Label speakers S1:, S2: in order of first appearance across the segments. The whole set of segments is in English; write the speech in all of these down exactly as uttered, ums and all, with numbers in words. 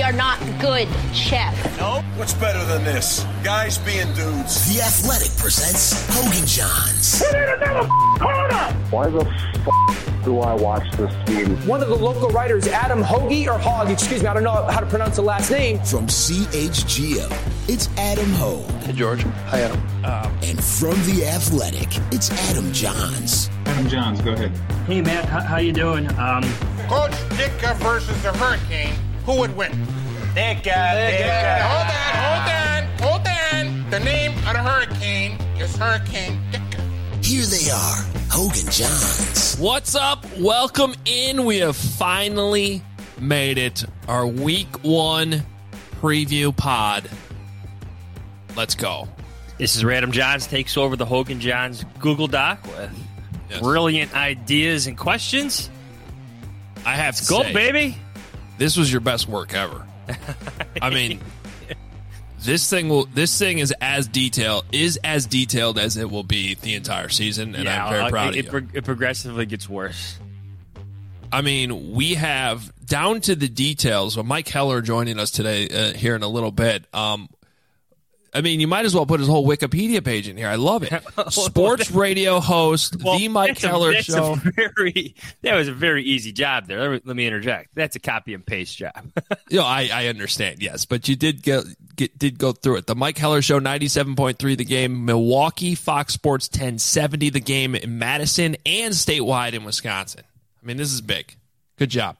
S1: are not good, Chef.
S2: No? What's better than this? Guys being dudes.
S3: The Athletic presents Hogan Johns.
S4: We need another corner!
S5: Why the f*** do I watch this game?
S6: One of the local writers, Adam Hoagie, or Hogg, excuse me, I don't know how to pronounce the last name.
S3: From C H G O, it's Adam Hogue.
S7: Hey, George. Hi, Adam.
S3: Um, and from The Athletic, it's Adam Johns.
S8: Adam Johns, go ahead.
S9: Hey, Matt, how, how you doing? Um,
S10: Coach Ditka versus the Hurricane, who would win?
S11: Ditka, Ditka.
S10: Hold on, hold on, hold on. The name of the Hurricane is Hurricane Ditka.
S3: Here they are, Hogan Johns.
S12: What's up? Welcome in. We have finally made it. Our week one preview pod. Let's go.
S9: This is Adam Johns takes over the Hogan Johns Google Doc with yes. brilliant ideas and questions.
S12: I have to
S9: go,
S12: say,
S9: baby.
S12: This was your best work ever. I mean, this thing will. This thing is as detailed is as detailed as it will be the entire season, and yeah, I'm very proud
S9: it,
S12: of you.
S9: It, it progressively gets worse.
S12: I mean, we have down to the details. Well, Mike Heller joining us today uh, here in a little bit. Um, I mean, you might as well put his whole Wikipedia page in here. I love it. Sports radio host, well, the Mike Heller
S9: a,
S12: Show.
S9: A very, that was a very easy job there. Let me interject. That's a copy and paste job.
S12: you know, I, I understand, yes, but you did get, get did go through it. The Mike Heller Show, ninety-seven point three The Game, Milwaukee, Fox Sports ten seventy The Game in Madison, and statewide in Wisconsin. I mean, this is big. Good job.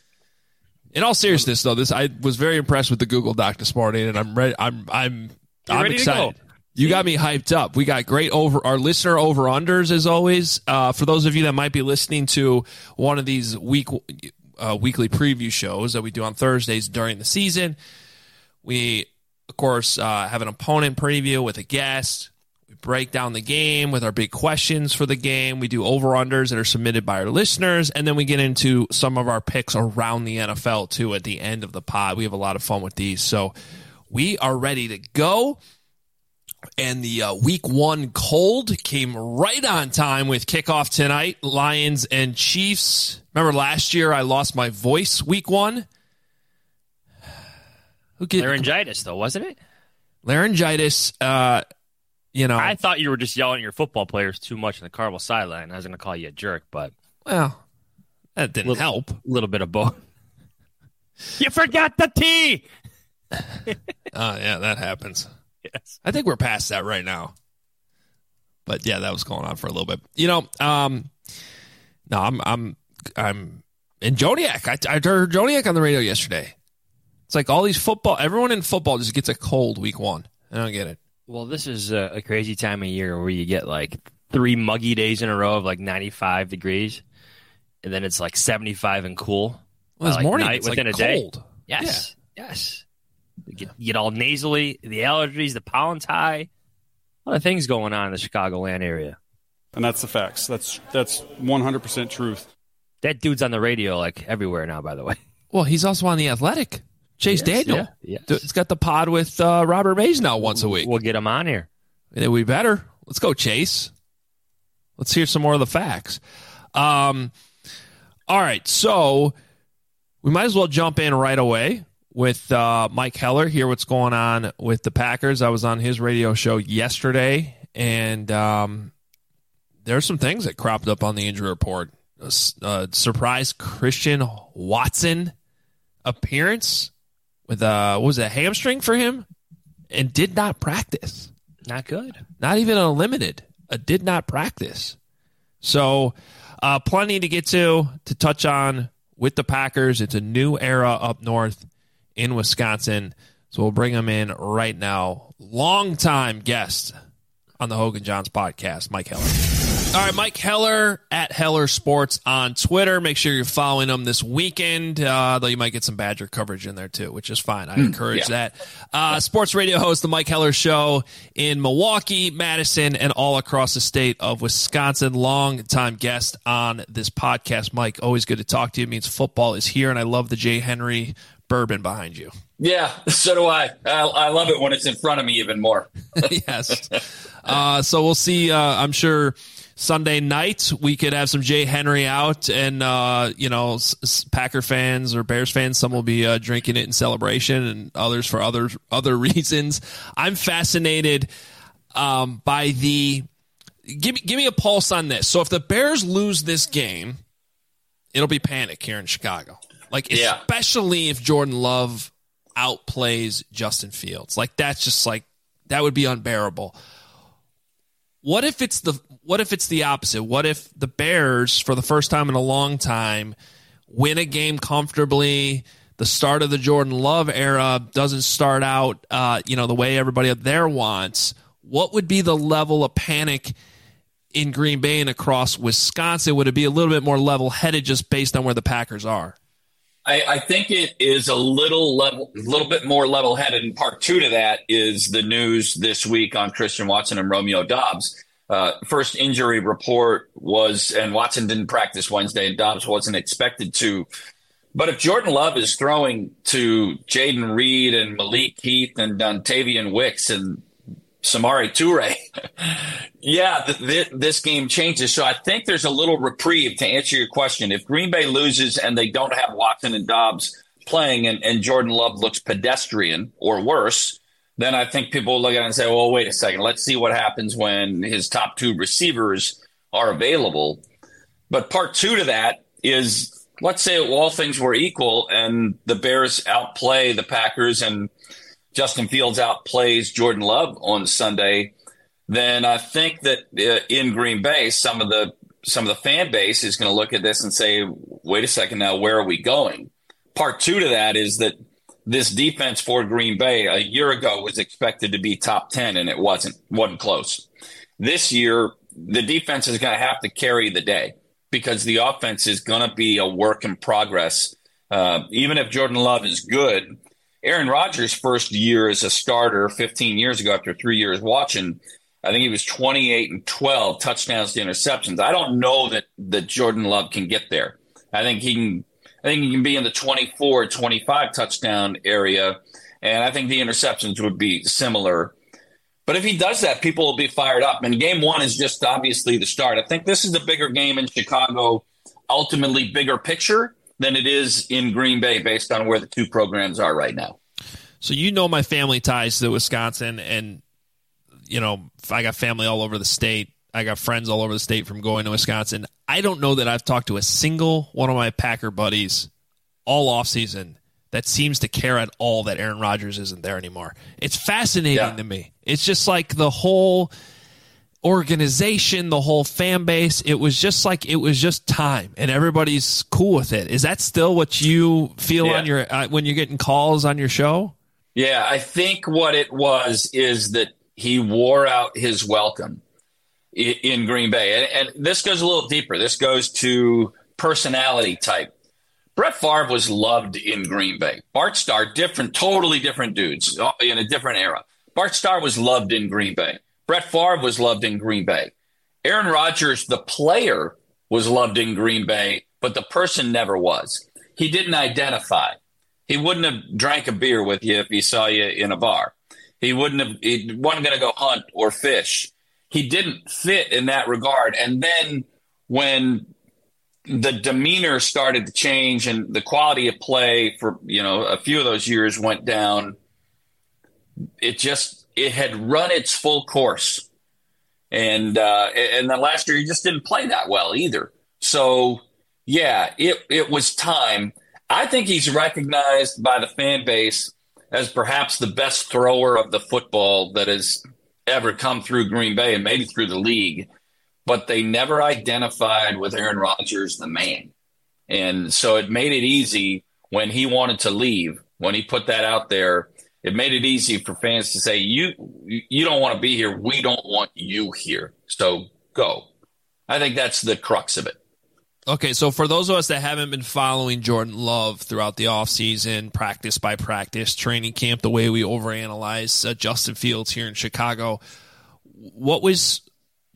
S12: In all seriousness, though, this I was very impressed with the Google Doc this morning, and I'm ready. I'm I'm.
S9: You're
S12: I'm
S9: ready
S12: excited.
S9: To go.
S12: You got me hyped up. We got great over our listener over unders as always. Uh, for those of you that might be listening to one of these week uh, weekly preview shows that we do on Thursdays during the season, we of course uh, have an opponent preview with a guest. We break down the game with our big questions for the game. We do over unders that are submitted by our listeners, and then we get into some of our picks around the N F L too at the end of the pod. We have a lot of fun with these, so. We are ready to go, and the uh, week one cold came right on time with kickoff tonight, Lions and Chiefs. Remember last year I lost my voice week one?
S9: Who get, Laryngitis, though, wasn't it?
S12: Laryngitis, uh, you know.
S9: I thought you were just yelling at your football players too much in the Carmel sideline. I was going to call you a jerk, but.
S12: Well, that didn't
S9: little,
S12: help.
S9: A little bit of both. You forgot the T!
S12: Oh, uh, yeah, that happens.
S9: Yes.
S12: I think we're past that right now. But yeah, that was going on for a little bit. You know, um, no, I'm, I'm, I'm in Joniak. I, I heard Joniak on the radio yesterday. It's like all these football, everyone in football just gets a cold week one. I don't get it.
S9: Well, this is a, a crazy time of year where you get like three muggy days in a row of like ninety-five degrees, and then it's like seventy-five and cool.
S12: Well, this
S9: like
S12: morning
S9: night
S12: it's
S9: within
S12: like
S9: a day.
S12: cold.
S9: Yes, yeah. yes. You get, you get all nasally, the allergies, the pollen's high. A lot of things going on in the Chicagoland area.
S8: And that's the facts. That's that's one hundred percent truth.
S9: That dude's on the radio like everywhere now, by the way.
S12: Well, he's also on The Athletic. Chase
S9: yes,
S12: Daniel.
S9: Yeah, yes.
S12: It's got the pod with uh, Robert Mays now once a week.
S9: We'll get him on here.
S12: And we better. Let's go, Chase. Let's hear some more of the facts. Um, all right, so we might as well jump in right away with uh, Mike Heller, hear what's going on with the Packers. I was on his radio show yesterday, and um, there's some things that cropped up on the injury report. A, a surprise Christian Watson appearance with a, what was it, a hamstring for him, and did not practice.
S9: Not good.
S12: Not even a limited. A did not practice. So uh, plenty to get to, to touch on with the Packers. It's a new era up north in Wisconsin. So we'll bring him in right now. Longtime guest on the Hogan Johns podcast, Mike Heller. All right, Mike Heller at Heller Sports on Twitter. Make sure you're following him this weekend, uh, though you might get some Badger coverage in there too, which is fine. I encourage yeah. that. Uh, sports radio host, the Mike Heller Show in Milwaukee, Madison, and all across the state of Wisconsin. Long-time guest on this podcast. Mike, always good to talk to you. It means football is here, and I love the Jay Henry bourbon behind you.
S7: Yeah, so do I. I, I love it when it's in front of me even more.
S12: Yes. Uh, so we'll see. Uh, I'm sure Sunday night we could have some Jay Henry out, and uh, you know, s- s- Packer fans or Bears fans, some will be uh, drinking it in celebration, and others for other other reasons. I'm fascinated um, by the. Give me give me a pulse on this. So if the Bears lose this game, it'll be panic here in Chicago. Like
S7: yeah.
S12: especially if Jordan Love outplays Justin Fields. Like that's just like that would be unbearable. What if it's the what if it's the opposite? What if the Bears, for the first time in a long time, win a game comfortably? The start of the Jordan Love era doesn't start out, uh, you know, the way everybody up there wants. What would be the level of panic in Green Bay and across Wisconsin? Would it be a little bit more level-headed just based on where the Packers are?
S7: I, I think it is a little level, a little bit more level-headed. And part two to that is the news this week on Christian Watson and Romeo Doubs. Uh, first injury report was, and Watson didn't practice Wednesday, and Doubs wasn't expected to. But if Jordan Love is throwing to Jaden Reed and Malik Heath and Dontavian Wicks and Samari Toure, yeah, th- th- this game changes. So I think there's a little reprieve to answer your question. If Green Bay loses and they don't have Watson and Doubs playing and, and Jordan Love looks pedestrian or worse, then I think people will look at it and say, well, wait a second. Let's see what happens when his top two receivers are available. But part two to that is, let's say all things were equal and the Bears outplay the Packers and Justin Fields outplays Jordan Love on Sunday, then I think that uh, in Green Bay, some of the some of the fan base is going to look at this and say, wait a second now, where are we going? Part two to that is that this defense for Green Bay a year ago was expected to be top ten, and it wasn't, wasn't close. This year, the defense is going to have to carry the day because the offense is going to be a work in progress. Uh, even if Jordan Love is good, Aaron Rodgers' first year as a starter fifteen years ago, after three years watching, I think he was twenty-eight and twelve touchdowns to interceptions. I don't know that, that Jordan Love can get there. I think he can. I think he can be in the twenty-four, twenty-five touchdown area, and I think the interceptions would be similar. But if he does that, people will be fired up. And game one is just obviously the start. I think this is the bigger game in Chicago, ultimately bigger picture than it is in Green Bay based on where the two programs are right now.
S12: So you know my family ties to Wisconsin, and you know I got family all over the state. I got friends all over the state from going to Wisconsin. I don't know that I've talked to a single one of my Packer buddies all offseason that seems to care at all that Aaron Rodgers isn't there anymore. It's fascinating yeah. to me. It's just like the whole organization, the whole fan base, it was just like it was just time, and everybody's cool with it. Is that still what you feel yeah. on your uh, when you're getting calls on your show?
S7: Yeah, I think what it was is that he wore out his welcome in, in Green Bay, and, and this goes a little deeper. This goes to personality type. Brett Favre was loved in Green Bay. Bart Starr, different, totally different dudes in a different era. Bart Starr was loved in Green Bay. Brett Favre was loved in Green Bay. Aaron Rodgers, the player, was loved in Green Bay, but the person never was. He didn't identify. He wouldn't have drank a beer with you if he saw you in a bar. He wouldn't have. He wasn't going to go hunt or fish. He didn't fit in that regard. And then when the demeanor started to change and the quality of play for, you know, a few of those years went down, it just, it had run its full course. And, uh, and then last year he just didn't play that well either. So yeah, it, it was time. I think he's recognized by the fan base as perhaps the best thrower of the football that has ever come through Green Bay and maybe through the league. But they never identified with Aaron Rodgers, the man. And so it made it easy when he wanted to leave, when he put that out there, it made it easy for fans to say, you you don't want to be here. We don't want you here. So go. I think that's the crux of it.
S12: Okay, so for those of us that haven't been following Jordan Love throughout the offseason, practice by practice, training camp, the way we overanalyze uh, Justin Fields here in Chicago, what was –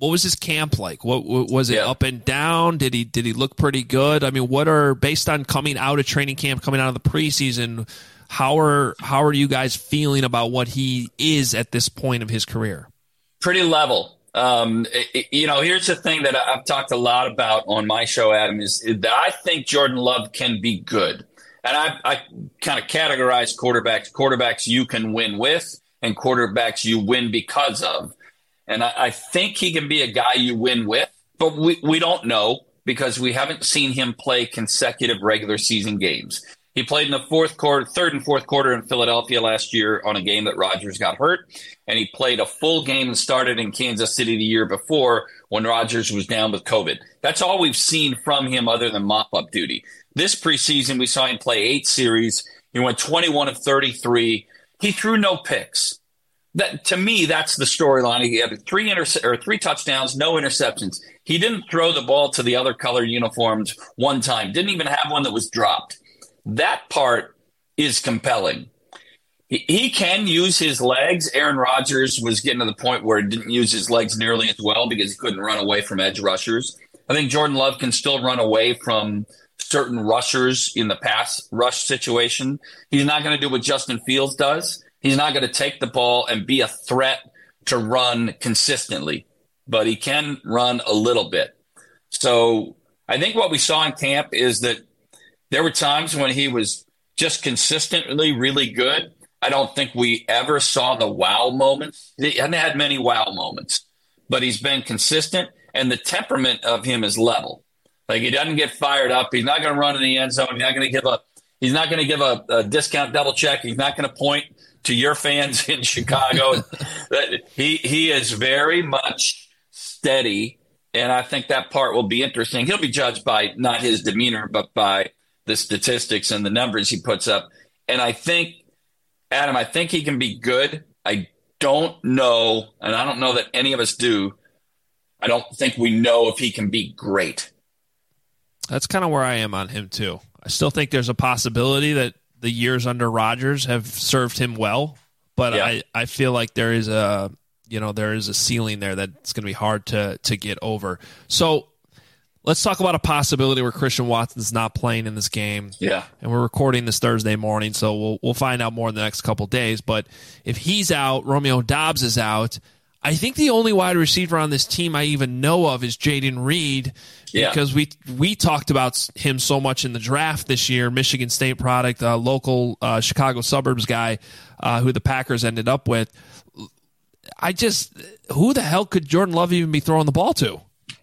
S12: what was his camp like? What, what was it?
S7: Yeah.
S12: Up and down? Did he did he look pretty good? I mean, what are based on coming out of training camp, coming out of the preseason? How are how are you guys feeling about what he is at this point of his career? Pretty level. Um, it, you know, here's the thing that I've talked a lot about on my show, Adam, is that I think Jordan Love can be good. And I, I kind of categorize quarterbacks, quarterbacks you can win with and quarterbacks you win because of. And I, I think he can be a guy you win with, but we, we don't know because we haven't seen him play consecutive regular season games. He played in the fourth quarter, third and fourth quarter in Philadelphia last year on a game that Rodgers got hurt. And he played a full game and started in Kansas City the year before when Rodgers was down with COVID. That's all we've seen from him other than mop-up duty. This preseason, we saw him play eight series. He went twenty-one of thirty-three. He threw no picks. That, to me, that's the storyline. He had three inter- or three touchdowns, no interceptions. He didn't throw the ball to the other color uniforms one time. Didn't even have one that was dropped. That part is compelling. He, he can use his legs. Aaron Rodgers was getting to the point where he didn't use his legs nearly as well because he couldn't run away from edge rushers. I think Jordan Love can still run away from certain rushers in the pass rush situation. He's not going to do what Justin Fields does. He's not going to take the ball and be a threat to run consistently, but he can run a little bit. So I think what we saw in camp is that there were times when he was just consistently really good. I don't think we ever saw the wow moments. He hasn't had many wow moments, but he's been consistent, and the temperament of him is level. Like, he doesn't get fired up. He's not going to run in the end zone. He's not going to give a he's not going to give a, a discount double check. He's not going to point to your fans in Chicago. he he is very much steady, and I think that part will be interesting. He'll be judged by not his demeanor, but by the statistics and the numbers he puts up. And I think, Adam, I think he can be good. I don't know, and I don't know that any of us do, I don't think we know if he can be great. That's kind of where I am on him, too. I still think there's a possibility that the years under Rodgers have served him well, but yeah. I, I feel like there is a you know there is a ceiling there that's going to be hard to to get over. So let's talk about a possibility where Christian Watson's not playing in this game.
S7: Yeah,
S12: and we're recording this Thursday morning, so we'll we'll find out more in the next couple days. But if he's out, Romeo Doubs is out. I think the only wide receiver on this team I even know of is Jaden Reed,
S7: yeah.
S12: because we we talked about him so much in the draft this year. Michigan State product, a local uh, Chicago suburbs guy uh, who the Packers ended up with. I just, who the hell could Jordan Love even be throwing the ball to?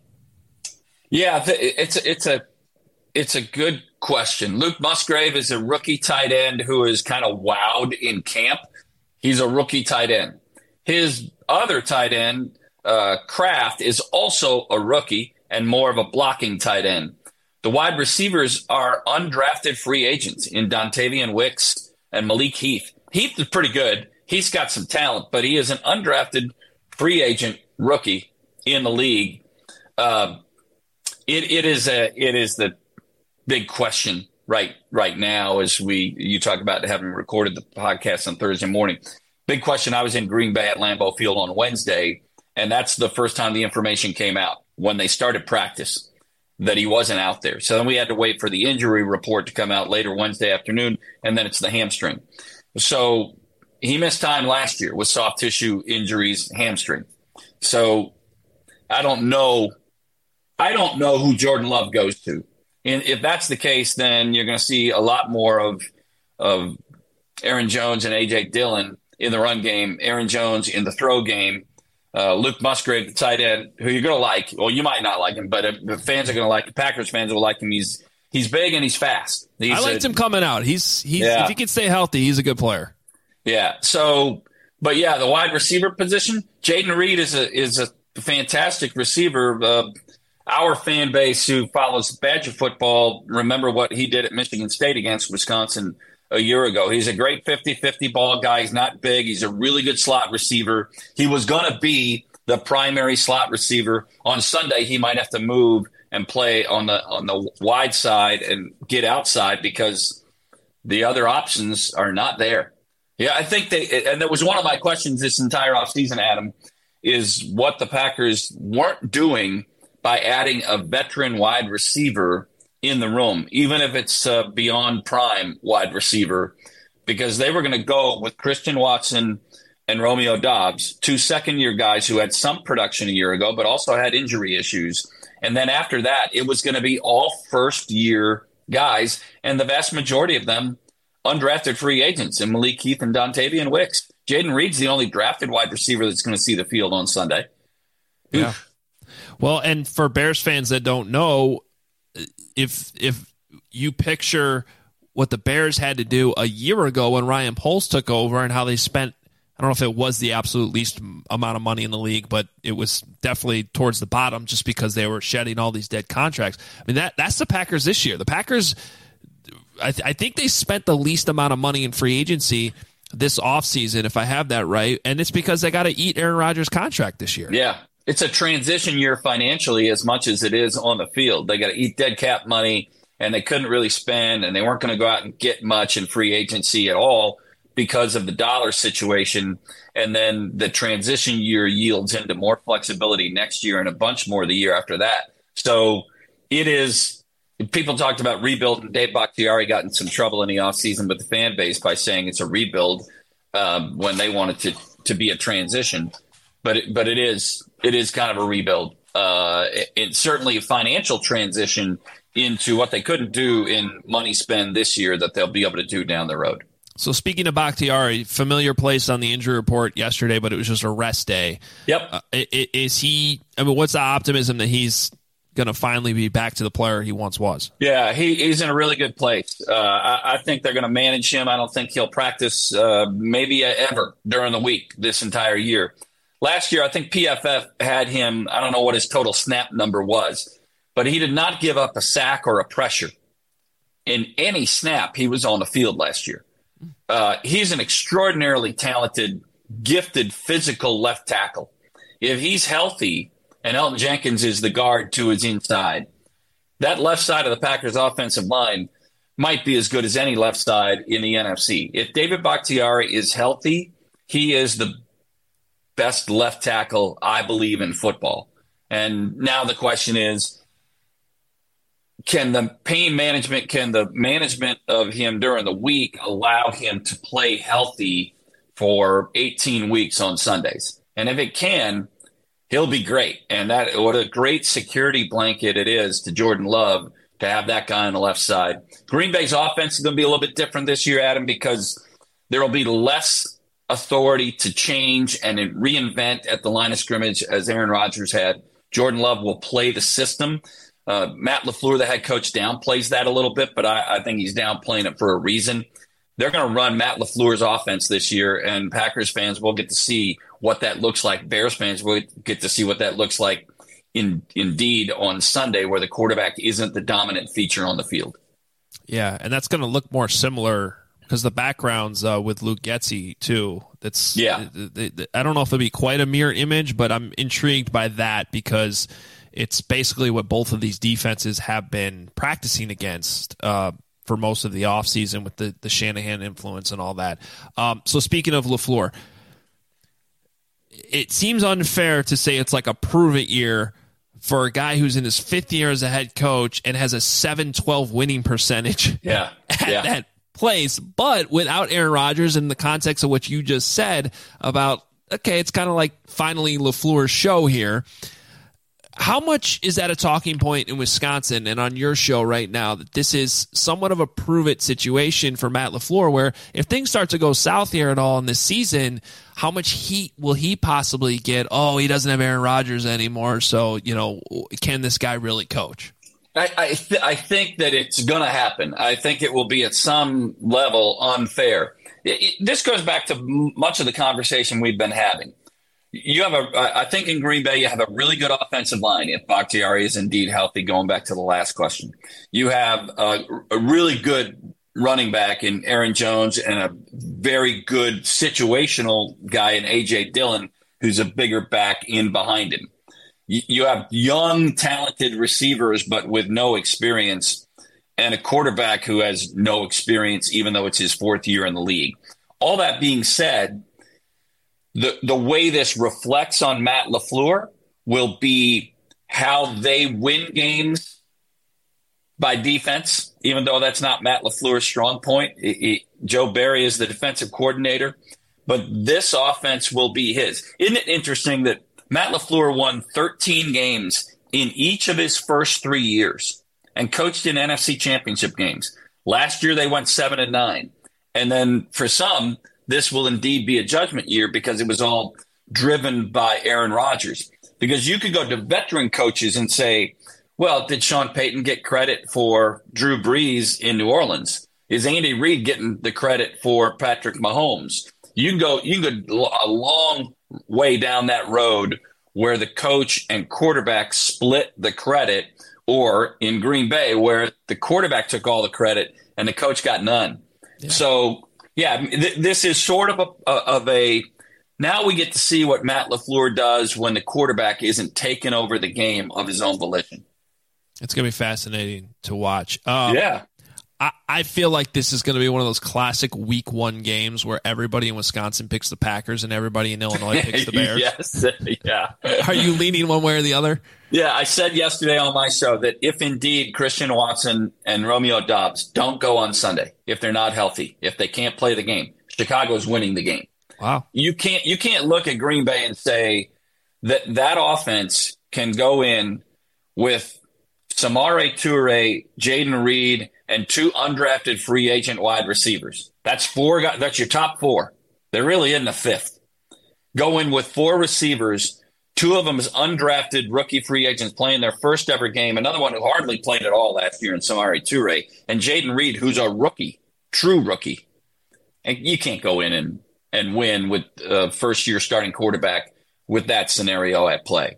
S7: Yeah, it's a, it's a it's a good question. Luke Musgrave is a rookie tight end who is kind of wowed in camp. He's a rookie tight end. His other tight end, uh, Kraft, is also a rookie and more of a blocking tight end. The wide receivers are undrafted free agents in Dontavian Wicks and Malik Heath. Heath is pretty good. He's got some talent, but he is an undrafted free agent rookie in the league. Uh, it, it is a it is the big question right right now as we you talk about having recorded the podcast on Thursday morning. Big question. I was in Green Bay at Lambeau Field on Wednesday, and that's the first time the information came out when they started practice that he wasn't out there. So then we had to wait for the injury report to come out later Wednesday afternoon, and then it's the hamstring. So he missed time last year with soft tissue injuries, hamstring. So I don't know. I don't know who Jordan Love goes to. And if that's the case, then you're going to see a lot more of of Aaron Jones and A J Dillon in the run game, Aaron Jones in the throw game, uh, Luke Musgrave, the tight end, who you're going to like. Well, you might not like him, but the fans are going to like him. Packers fans will like him. He's he's big and he's fast. He's
S12: I liked
S7: a,
S12: him coming out. He's he's
S7: yeah.
S12: If he can stay healthy, he's a good player.
S7: Yeah. So, but yeah, the wide receiver position, Jaden Reed is a is a fantastic receiver. Uh, our fan base who follows Badger football remember what he did at Michigan State against Wisconsin a year ago. He's a great fifty-fifty ball guy. He's not big. He's a really good slot receiver. He was going to be the primary slot receiver. On Sunday, he might have to move and play on the on the wide side and get outside because the other options are not there. Yeah, I think they – and that was one of my questions this entire offseason, Adam, is what the Packers weren't doing by adding a veteran wide receiver in the room, even if it's uh, beyond prime wide receiver, because they were going to go with Christian Watson and Romeo Doubs, two second-year guys who had some production a year ago, but also had injury issues. And then after that, it was going to be all first-year guys, and the vast majority of them undrafted free agents, and Malik Heath and Dontavian Wicks. Jaden Reed's the only drafted wide receiver that's going to see the field on Sunday.
S12: Yeah. Oof. Well, and for Bears fans that don't know, if if you picture what the Bears had to do a year ago when Ryan Poles took over and how they spent, I don't know if it was the absolute least amount of money in the league, but it was definitely towards the bottom just because they were shedding all these dead contracts. I mean, that that's the Packers this year. The Packers, I, th- I think they spent the least amount of money in free agency this offseason, if I have that right, and it's because they got to eat Aaron Rodgers' contract this year.
S7: Yeah, it's a transition year financially as much as it is on the field. They got to eat dead cap money, and they couldn't really spend, and they weren't going to go out and get much in free agency at all because of the dollar situation. And then the transition year yields into more flexibility next year and a bunch more the year after that. So it is – people talked about rebuild, and Dave Bakhtiari got in some trouble in the offseason with the fan base by saying it's a rebuild um, when they wanted to to be a transition. But it, but it is it is kind of a rebuild. Uh, it, it's certainly a financial transition into what they couldn't do in money spend this year that they'll be able to do down the road.
S12: So speaking of Bakhtiari, familiar place on the injury report yesterday, but it was just a rest day.
S7: Yep.
S12: Uh, is he – I mean, what's the optimism that he's – going to finally be back to the player he once was?
S7: Yeah, he, he's in a really good place. Uh, I, I think they're going to manage him. I don't think he'll practice uh, maybe ever during the week this entire year. Last year, I think P F F had him, I don't know what his total snap number was, but he did not give up a sack or a pressure in any snap he was on the field last year. Uh, he's an extraordinarily talented, gifted, physical left tackle. If he's healthy, and Elton Jenkins is the guard to his inside, that left side of the Packers offensive line might be as good as any left side in the N F C. If David Bakhtiari is healthy, he is the best left tackle, I believe, in football. And now the question is, can the pain management, can the management of him during the week allow him to play healthy for eighteen weeks on Sundays? And if it can, he'll be great. And that what a great security blanket it is to Jordan Love to have that guy on the left side. Green Bay's offense is going to be a little bit different this year, Adam, because there will be less authority to change and reinvent at the line of scrimmage as Aaron Rodgers had. Jordan Love will play the system. Uh, Matt LaFleur, the head coach, downplays that a little bit, but I, I think he's downplaying it for a reason. They're going to run Matt LaFleur's offense this year, and Packers fans will get to see what that looks like. Bears fans will get to see what that looks like in indeed on Sunday, where the quarterback isn't the dominant feature on the field.
S12: Yeah, and that's going to look more similar because the backgrounds uh, with Luke Getsy, too. That's
S7: yeah.
S12: They, they, I don't know if it'll be quite a mirror image, but I'm intrigued by that because it's basically what both of these defenses have been practicing against uh, for most of the offseason with the, the Shanahan influence and all that. Um, so speaking of LaFleur, it seems unfair to say it's like a prove-it year for a guy who's in his fifth year as a head coach and has a seven twelve winning percentage
S7: yeah.
S12: at
S7: yeah.
S12: that place. But without Aaron Rodgers, in the context of what you just said about, okay, it's kind of like finally LaFleur's show here. How much is that a talking point in Wisconsin and on your show right now that this is somewhat of a prove-it situation for Matt LaFleur, where if things start to go south here at all in this season, how much heat will he possibly get? Oh, he doesn't have Aaron Rodgers anymore, so, you know, can this guy really coach?
S7: I, I, th- I think that it's going to happen. I think it will be at some level unfair. It, it, this goes back to m- much of the conversation we've been having. You have a, I think in Green Bay, you have a really good offensive line if Bakhtiari is indeed healthy, going back to the last question. You have a, a really good running back in Aaron Jones and a very good situational guy in A J Dillon, who's a bigger back in behind him. You, you have young, talented receivers, but with no experience, and a quarterback who has no experience, even though it's his fourth year in the league. All that being said, the the way this reflects on Matt LaFleur will be how they win games by defense, even though that's not Matt LaFleur's strong point. It, it, Joe Barry is the defensive coordinator, but this offense will be his. Isn't it interesting that Matt LaFleur won thirteen games in each of his first three years and coached in N F C championship games? Last year, they went seven and nine. And then for some, this will indeed be a judgment year because it was all driven by Aaron Rodgers. Because you could go to veteran coaches and say, well, did Sean Payton get credit for Drew Brees in New Orleans? Is Andy Reid getting the credit for Patrick Mahomes? You can go, you can go a long way down that road where the coach and quarterback split the credit, or in Green Bay where the quarterback took all the credit and the coach got none. Yeah. So, yeah, th- this is sort of a, of a – now we get to see what Matt LaFleur does when the quarterback isn't taking over the game of his own volition.
S12: It's going to be fascinating to watch. Um,
S7: yeah.
S12: I, I feel like this is going to be one of those classic week one games where everybody in Wisconsin picks the Packers and everybody in Illinois picks the Bears.
S7: Yes, yeah.
S12: Are you leaning one way or the other?
S7: Yeah, I said yesterday on my show that if indeed Christian Watson and Romeo Doubs don't go on Sunday, if they're not healthy, if they can't play the game, Chicago's winning the game.
S12: Wow.
S7: You can't you can't look at Green Bay and say that that offense can go in with Samori Toure, Jaden Reed, and two undrafted free agent wide receivers. That's four guys. That's your top four. They're really in the fifth. Go in with four receivers. Two of them is undrafted rookie free agents playing their first ever game. Another one who hardly played at all last year in Samori Toure. And Jaden Reed, who's a rookie, true rookie. And you can't go in and, and win with a first-year starting quarterback with that scenario at play.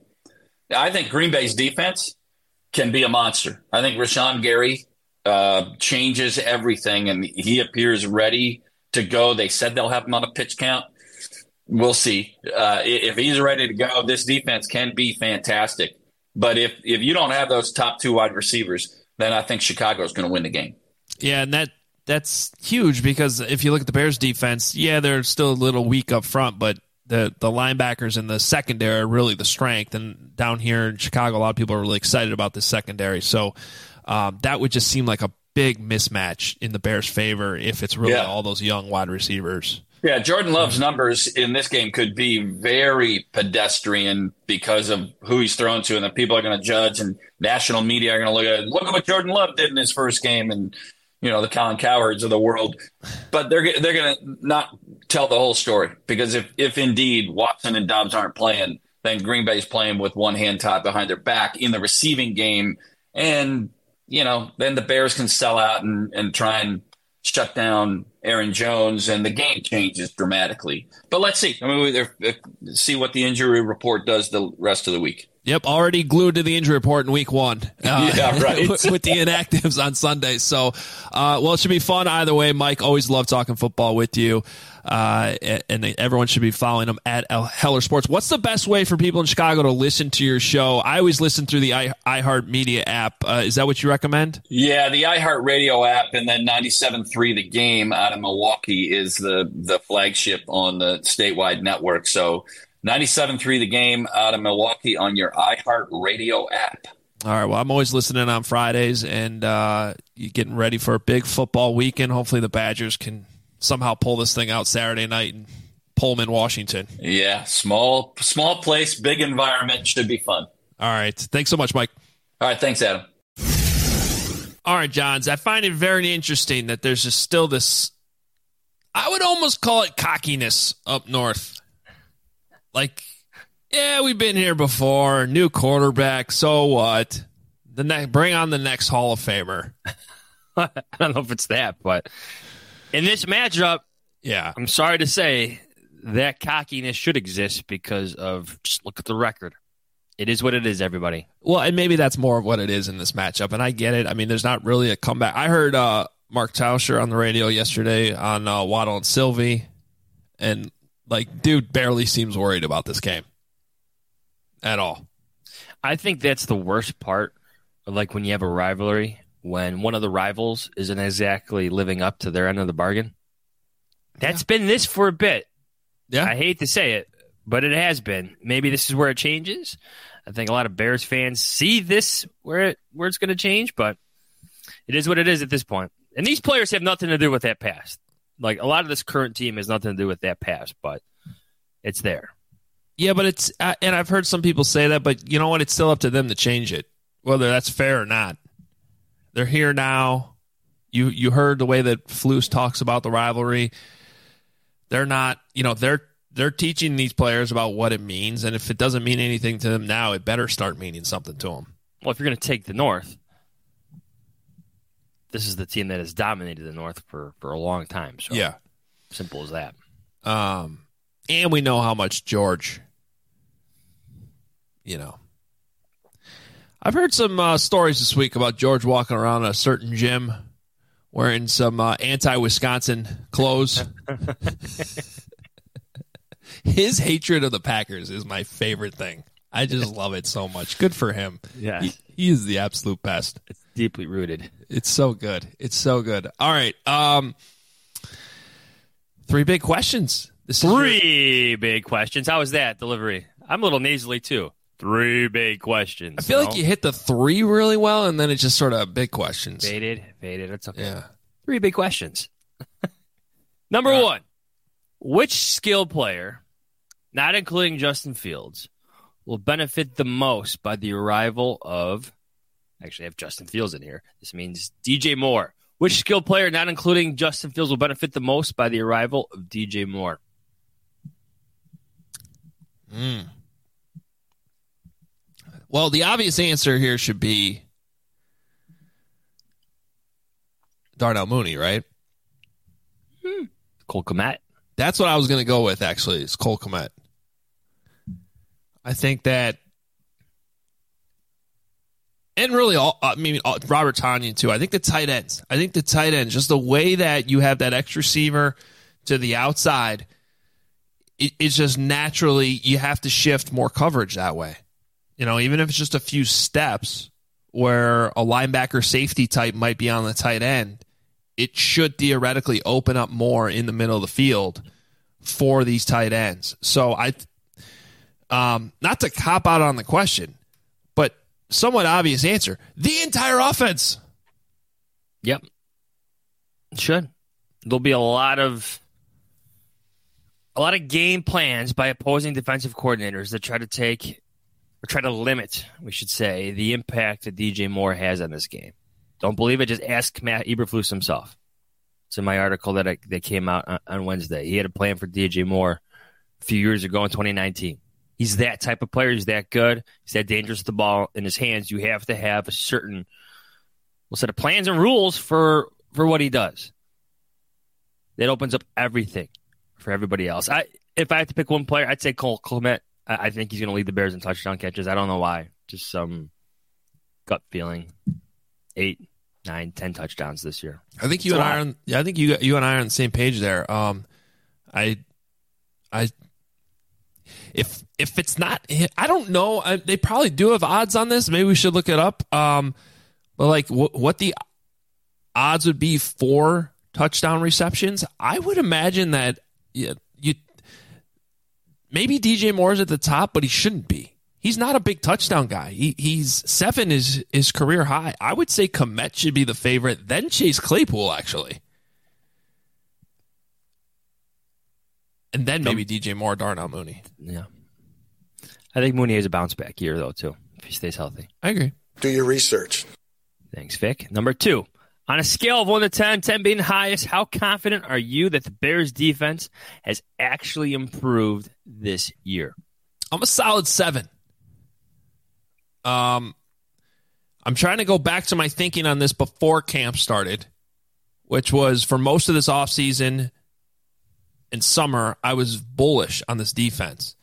S7: I think Green Bay's defense can be a monster. I think Rashawn Gary uh, changes everything, and he appears ready to go. They said they'll have him on a pitch count. We'll see. Uh, if he's ready to go, this defense can be fantastic. But if, if you don't have those top two wide receivers, then I think Chicago's going to win the game.
S12: Yeah, and that that's huge because if you look at the Bears defense, yeah, they're still a little weak up front, but the, the linebackers and the secondary are really the strength. And down here in Chicago, a lot of people are really excited about this secondary. So um, that would just seem like a big mismatch in the Bears' favor if it's really yeah. all those young wide receivers.
S7: Yeah, Jordan Love's numbers in this game could be very pedestrian because of who he's thrown to, and the people are going to judge, and national media are going to look at it. Look at what Jordan Love did in his first game, and you know the Colin Cowards of the world. But they're they're going to not tell the whole story because if if indeed Watson and Dobbs aren't playing, then Green Bay's playing with one hand tied behind their back in the receiving game, and you know then the Bears can sell out and and try and shut down Aaron Jones, and the game changes dramatically. But let's see. I mean, we see what the injury report does the rest of the week.
S12: Yep, already glued to the injury report in week one. Uh,
S7: yeah, right.
S12: with, with the inactives on Sunday. So, uh, well, it should be fun either way. Mike, always love talking football with you. Uh, and everyone should be following him at Heller Sports. What's the best way for people in Chicago to listen to your show? I always listen through the I, iHeartMedia app. Uh, is that what you recommend?
S7: Yeah, the iHeartRadio app, and then ninety-seven point three The Game out of Milwaukee is the, the flagship on the statewide network. So ninety-seven point three The Game out of Milwaukee on your iHeartRadio app.
S12: All right, well, I'm always listening on Fridays, and uh, you're getting ready for a big football weekend. Hopefully the Badgers can somehow pull this thing out Saturday night in Pullman, Washington.
S7: Yeah, small small place, big environment. Should be fun.
S12: All right. Thanks so much, Mike.
S7: All right. Thanks, Adam.
S12: All right, Johns. I find it very interesting that there's just still this, I would almost call it cockiness up north. Like, yeah, we've been here before. New quarterback. So what? The ne- Bring on the next Hall of Famer.
S9: I don't know if it's that, but in this matchup,
S12: yeah,
S9: I'm sorry to say that cockiness should exist because of just look at the record. It is what it is, everybody.
S12: Well, and maybe that's more of what it is in this matchup, and I get it. I mean, there's not really a comeback. I heard uh, Mark Tauscher on the radio yesterday on uh, Waddle and Sylvie, and, like, dude barely seems worried about this game at all.
S9: I think that's the worst part, like when you have a rivalry, when one of the rivals isn't exactly living up to their end of the bargain. That's yeah. been this for a bit.
S12: Yeah.
S9: I hate to say it, but it has been. Maybe this is where it changes. I think a lot of Bears fans see this where it, where it's going to change, but it is what it is at this point. And these players have nothing to do with that past. Like, a lot of this current team has nothing to do with that past, but it's there.
S12: Yeah, but it's, uh, and I've heard some people say that, but you know what? It's still up to them to change it, whether that's fair or not. They're here now. You you heard the way that Flus talks about the rivalry. They're not, you know, they're they're teaching these players about what it means, and if it doesn't mean anything to them now, it better start meaning something to them.
S9: Well, if you're going to take the North, this is the team that has dominated the North for, for a long time. So
S12: yeah,
S9: simple as that.
S12: Um, and we know how much George, you know. I've heard some uh, stories this week about George walking around a certain gym wearing some uh, anti-Wisconsin clothes. His hatred of the Packers is my favorite thing. I just love it so much. Good for him.
S9: Yeah,
S12: he, he is the absolute best.
S9: It's deeply rooted.
S12: It's so good. It's so good. All right. Um, three big questions. This
S9: three your... big questions. How was that delivery? I'm a little nasally too. Three big questions.
S12: I feel
S9: no?
S12: like you hit the three really well, and then it's just sort of big questions.
S9: Faded, faded. It's okay.
S12: Yeah.
S9: Three big questions. Number right. one, which skilled player, not including Justin Fields, will benefit the most by the arrival of, actually I have Justin Fields in here. This means D J Moore. Which skilled player, not including Justin Fields, will benefit the most by the arrival of D J Moore?
S12: Hmm. Well, the obvious answer here should be Darnell Mooney, right?
S9: Hmm. Cole Kmet.
S12: That's what I was going to go with, actually, is Cole Kmet. I think that, and really, all, I mean, all, Robert Tonyan, too. I think the tight ends. I think the tight ends, just the way that you have that X receiver to the outside, it, it's just naturally, you have to shift more coverage that way. You know, even if it's just a few steps where a linebacker safety type might be on the tight end, it should theoretically open up more in the middle of the field for these tight ends. So I, um, not to cop out on the question, but somewhat obvious answer, the entire offense.
S9: Yep. It should. There'll be a lot of a lot of game plans by opposing defensive coordinators that try to take or try to limit, we should say, the impact that D J Moore has on this game. Don't believe it? Just ask Matt Eberflus himself. It's in my article that I, that came out on, on Wednesday. He had a plan for D J Moore a few years ago in twenty nineteen. He's that type of player. He's that good. He's that dangerous with the ball in his hands. You have to have a certain well, set of plans and rules for, for what he does. That opens up everything for everybody else. I If I had to pick one player, I'd say Cole Kmet. I think he's going to lead the Bears in touchdown catches. I don't know why. Just some gut feeling. Eight, nine, ten touchdowns this year.
S12: I think you and I are. On, yeah, I think you you and I are on the same page there. Um, I, I, if if it's not, I don't know. I, they probably do have odds on this. Maybe we should look it up. Um, but like w- what the odds would be for touchdown receptions? I would imagine that yeah, you. Maybe D J Moore's at the top, but he shouldn't be. He's not a big touchdown guy. He, he's seven is his career high. I would say Kmet should be the favorite, then Chase Claypool, actually. And then maybe D J Moore, Darnell Mooney.
S9: Yeah. I think Mooney has a bounce back year, though, too, if he stays healthy.
S12: I agree.
S2: Do your research.
S9: Thanks, Vic. Number two. On a scale of one to ten, ten being highest, how confident are you that the Bears defense has actually improved this year?
S12: I'm a solid seven. Um, I'm trying to go back to my thinking on this before camp started, which was for most of this offseason and summer, I was bullish on this defense.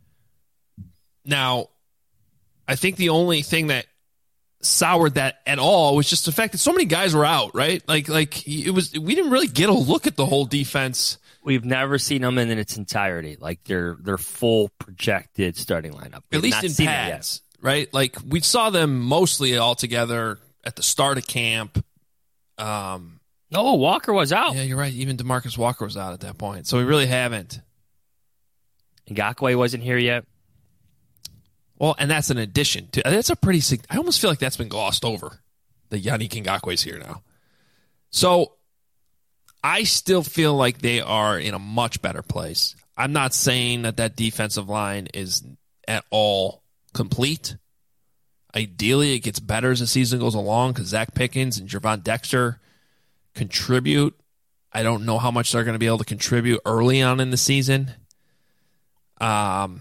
S12: Now, I think the only thing that soured that at all was just the fact that so many guys were out, right? Like, like it was. We didn't really get a look at the whole defense.
S9: We've never seen them in its entirety, like their their full projected starting lineup.
S12: At least in pads, right? Like we saw them mostly all together at the start of camp. Um,
S9: no, Walker was out.
S12: Yeah, you're right. Even DeMarcus Walker was out at that point, so we really haven't
S9: Ngakoue wasn't here yet.
S12: Well, and that's an addition to. That's a pretty. I almost feel like that's been glossed over. That Yannick Ngakoue's here now. So I still feel like they are in a much better place. I'm not saying that that defensive line is at all complete. Ideally, it gets better as the season goes along because Zach Pickens and Gervon Dexter contribute. I don't know how much they're going to be able to contribute early on in the season. Um,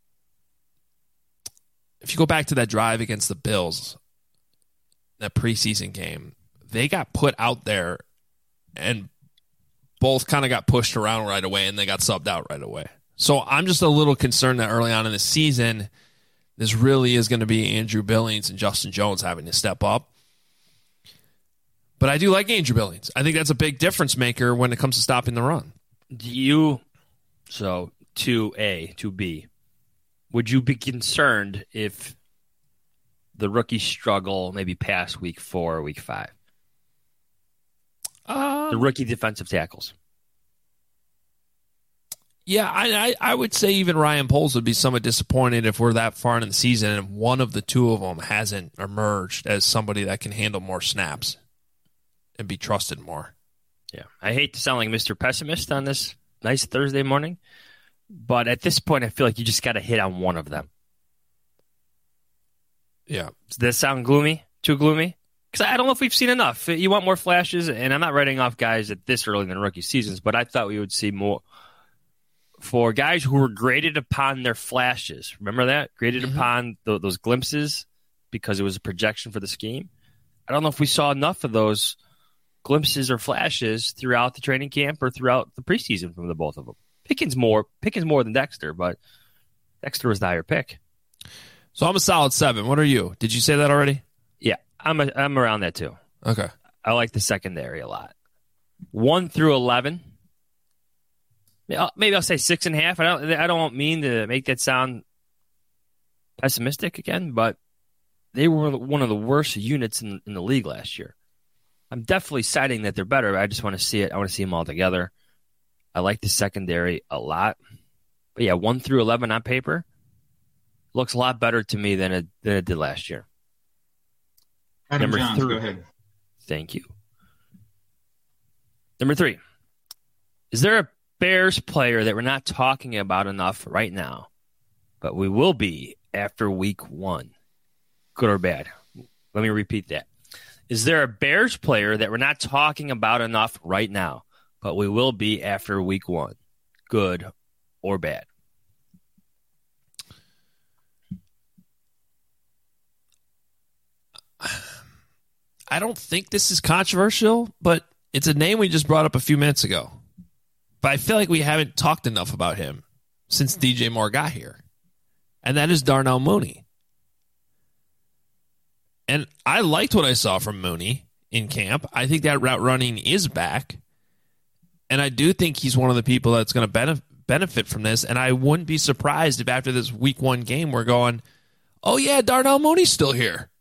S12: if you go back to that drive against the Bills, that preseason game, they got put out there and both kind of got pushed around right away and they got subbed out right away. So I'm just a little concerned that early on in the season, this really is going to be Andrew Billings and Justin Jones having to step up. But I do like Andrew Billings. I think that's a big difference maker when it comes to stopping the run.
S9: Do you, so two A, two B, would you be concerned if the rookies struggle maybe past week four or week five?
S12: Um,
S9: the rookie defensive tackles.
S12: Yeah, I, I I would say even Ryan Poles would be somewhat disappointed if we're that far in the season and one of the two of them hasn't emerged as somebody that can handle more snaps and be trusted more.
S9: Yeah, I hate to sound like Mister Pessimist on this nice Thursday morning, but at this point, I feel like you just got to hit on one of them.
S12: Yeah.
S9: Does that sound gloomy? Too gloomy? Because I don't know if we've seen enough. You want more flashes, and I'm not writing off guys at this early in the rookie seasons, but I thought we would see more for guys who were graded upon their flashes. Remember that? Graded mm-hmm. upon th- those glimpses because it was a projection for the scheme. I don't know if we saw enough of those glimpses or flashes throughout the training camp or throughout the preseason from the both of them. Pickens more, Pickens more than Dexter, but Dexter was the higher pick.
S12: So I'm a solid seven. What are you? Did you say that already?
S9: Yeah, I'm a, I'm around that too.
S12: Okay.
S9: I like the secondary a lot. One through eleven. Maybe I'll say six and a half. I don't. I don't mean to make that sound pessimistic again, but they were one of the worst units in, in the league last year. I'm definitely citing that they're better. But I just want to see it. I want to see them all together. I like the secondary a lot. But yeah, one through eleven on paper looks a lot better to me than it than it did last year.
S13: Adam
S9: Number
S13: Johns,
S9: three.
S13: go ahead.
S9: Thank you. Number three. Is there a Bears player that we're not talking about enough right now, but we will be after week one? Good or bad? Let me repeat that. Is there a Bears player that we're not talking about enough right now, but we will be after week one? Good or bad?
S12: I don't think this is controversial, but it's a name we just brought up a few minutes ago. But I feel like we haven't talked enough about him since D J Moore got here. And that is Darnell Mooney. And I liked what I saw from Mooney in camp. I think that route running is back. And I do think he's one of the people that's going to benef- benefit from this. And I wouldn't be surprised if after this week one game we're going, oh, yeah, Darnell Mooney's still here.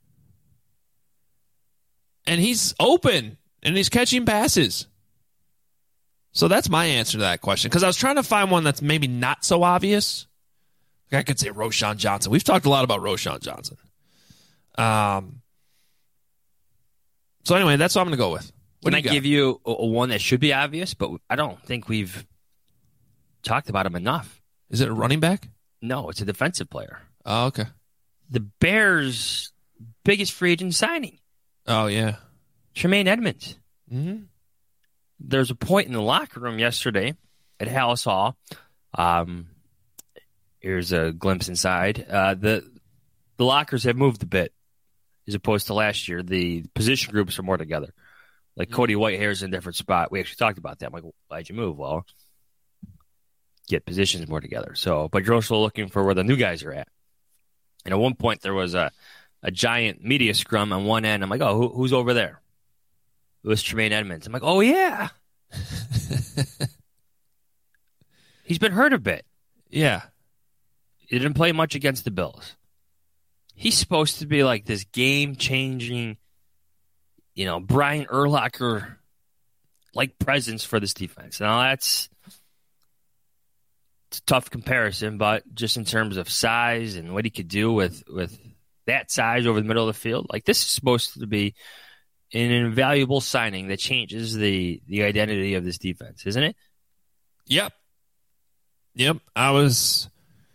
S12: And he's open, and he's catching passes. So that's my answer to that question. Because I was trying to find one that's maybe not so obvious. Like I could say Roschon Johnson. We've talked a lot about Roschon Johnson. Um. So anyway, that's what I'm going to go with. What
S9: Can
S12: do
S9: I
S12: you
S9: give you a, a one that should be obvious, but I don't think we've talked about him enough.
S12: Is it a running back?
S9: No, it's a defensive player.
S12: Oh, okay.
S9: The Bears' biggest free agent signing.
S12: Oh, yeah.
S9: Tremaine Edmonds.
S12: Mm-hmm.
S9: There's a point in the locker room yesterday at Hallis Hall. Um, here's a glimpse inside. Uh, the the lockers have moved a bit as opposed to last year. The position groups are more together. Like Cody Whitehair's in a different spot. We actually talked about that. I'm like, why'd you move? Well, get positions more together. So, but you're also looking for where the new guys are at. And at one point, there was a, a giant media scrum on one end. I'm like, oh, who, who's over there? It was Tremaine Edmonds. I'm like, oh, yeah. He's been hurt a bit.
S12: Yeah.
S9: He didn't play much against the Bills. He's supposed to be like this game-changing, you know, Brian Urlacher-like presence for this defense. Now, that's it's a tough comparison, but just in terms of size and what he could do with, with that size over the middle of the field, like this is supposed to be an invaluable signing that changes the, the identity of this defense, isn't it?
S12: Yep. Yep. I was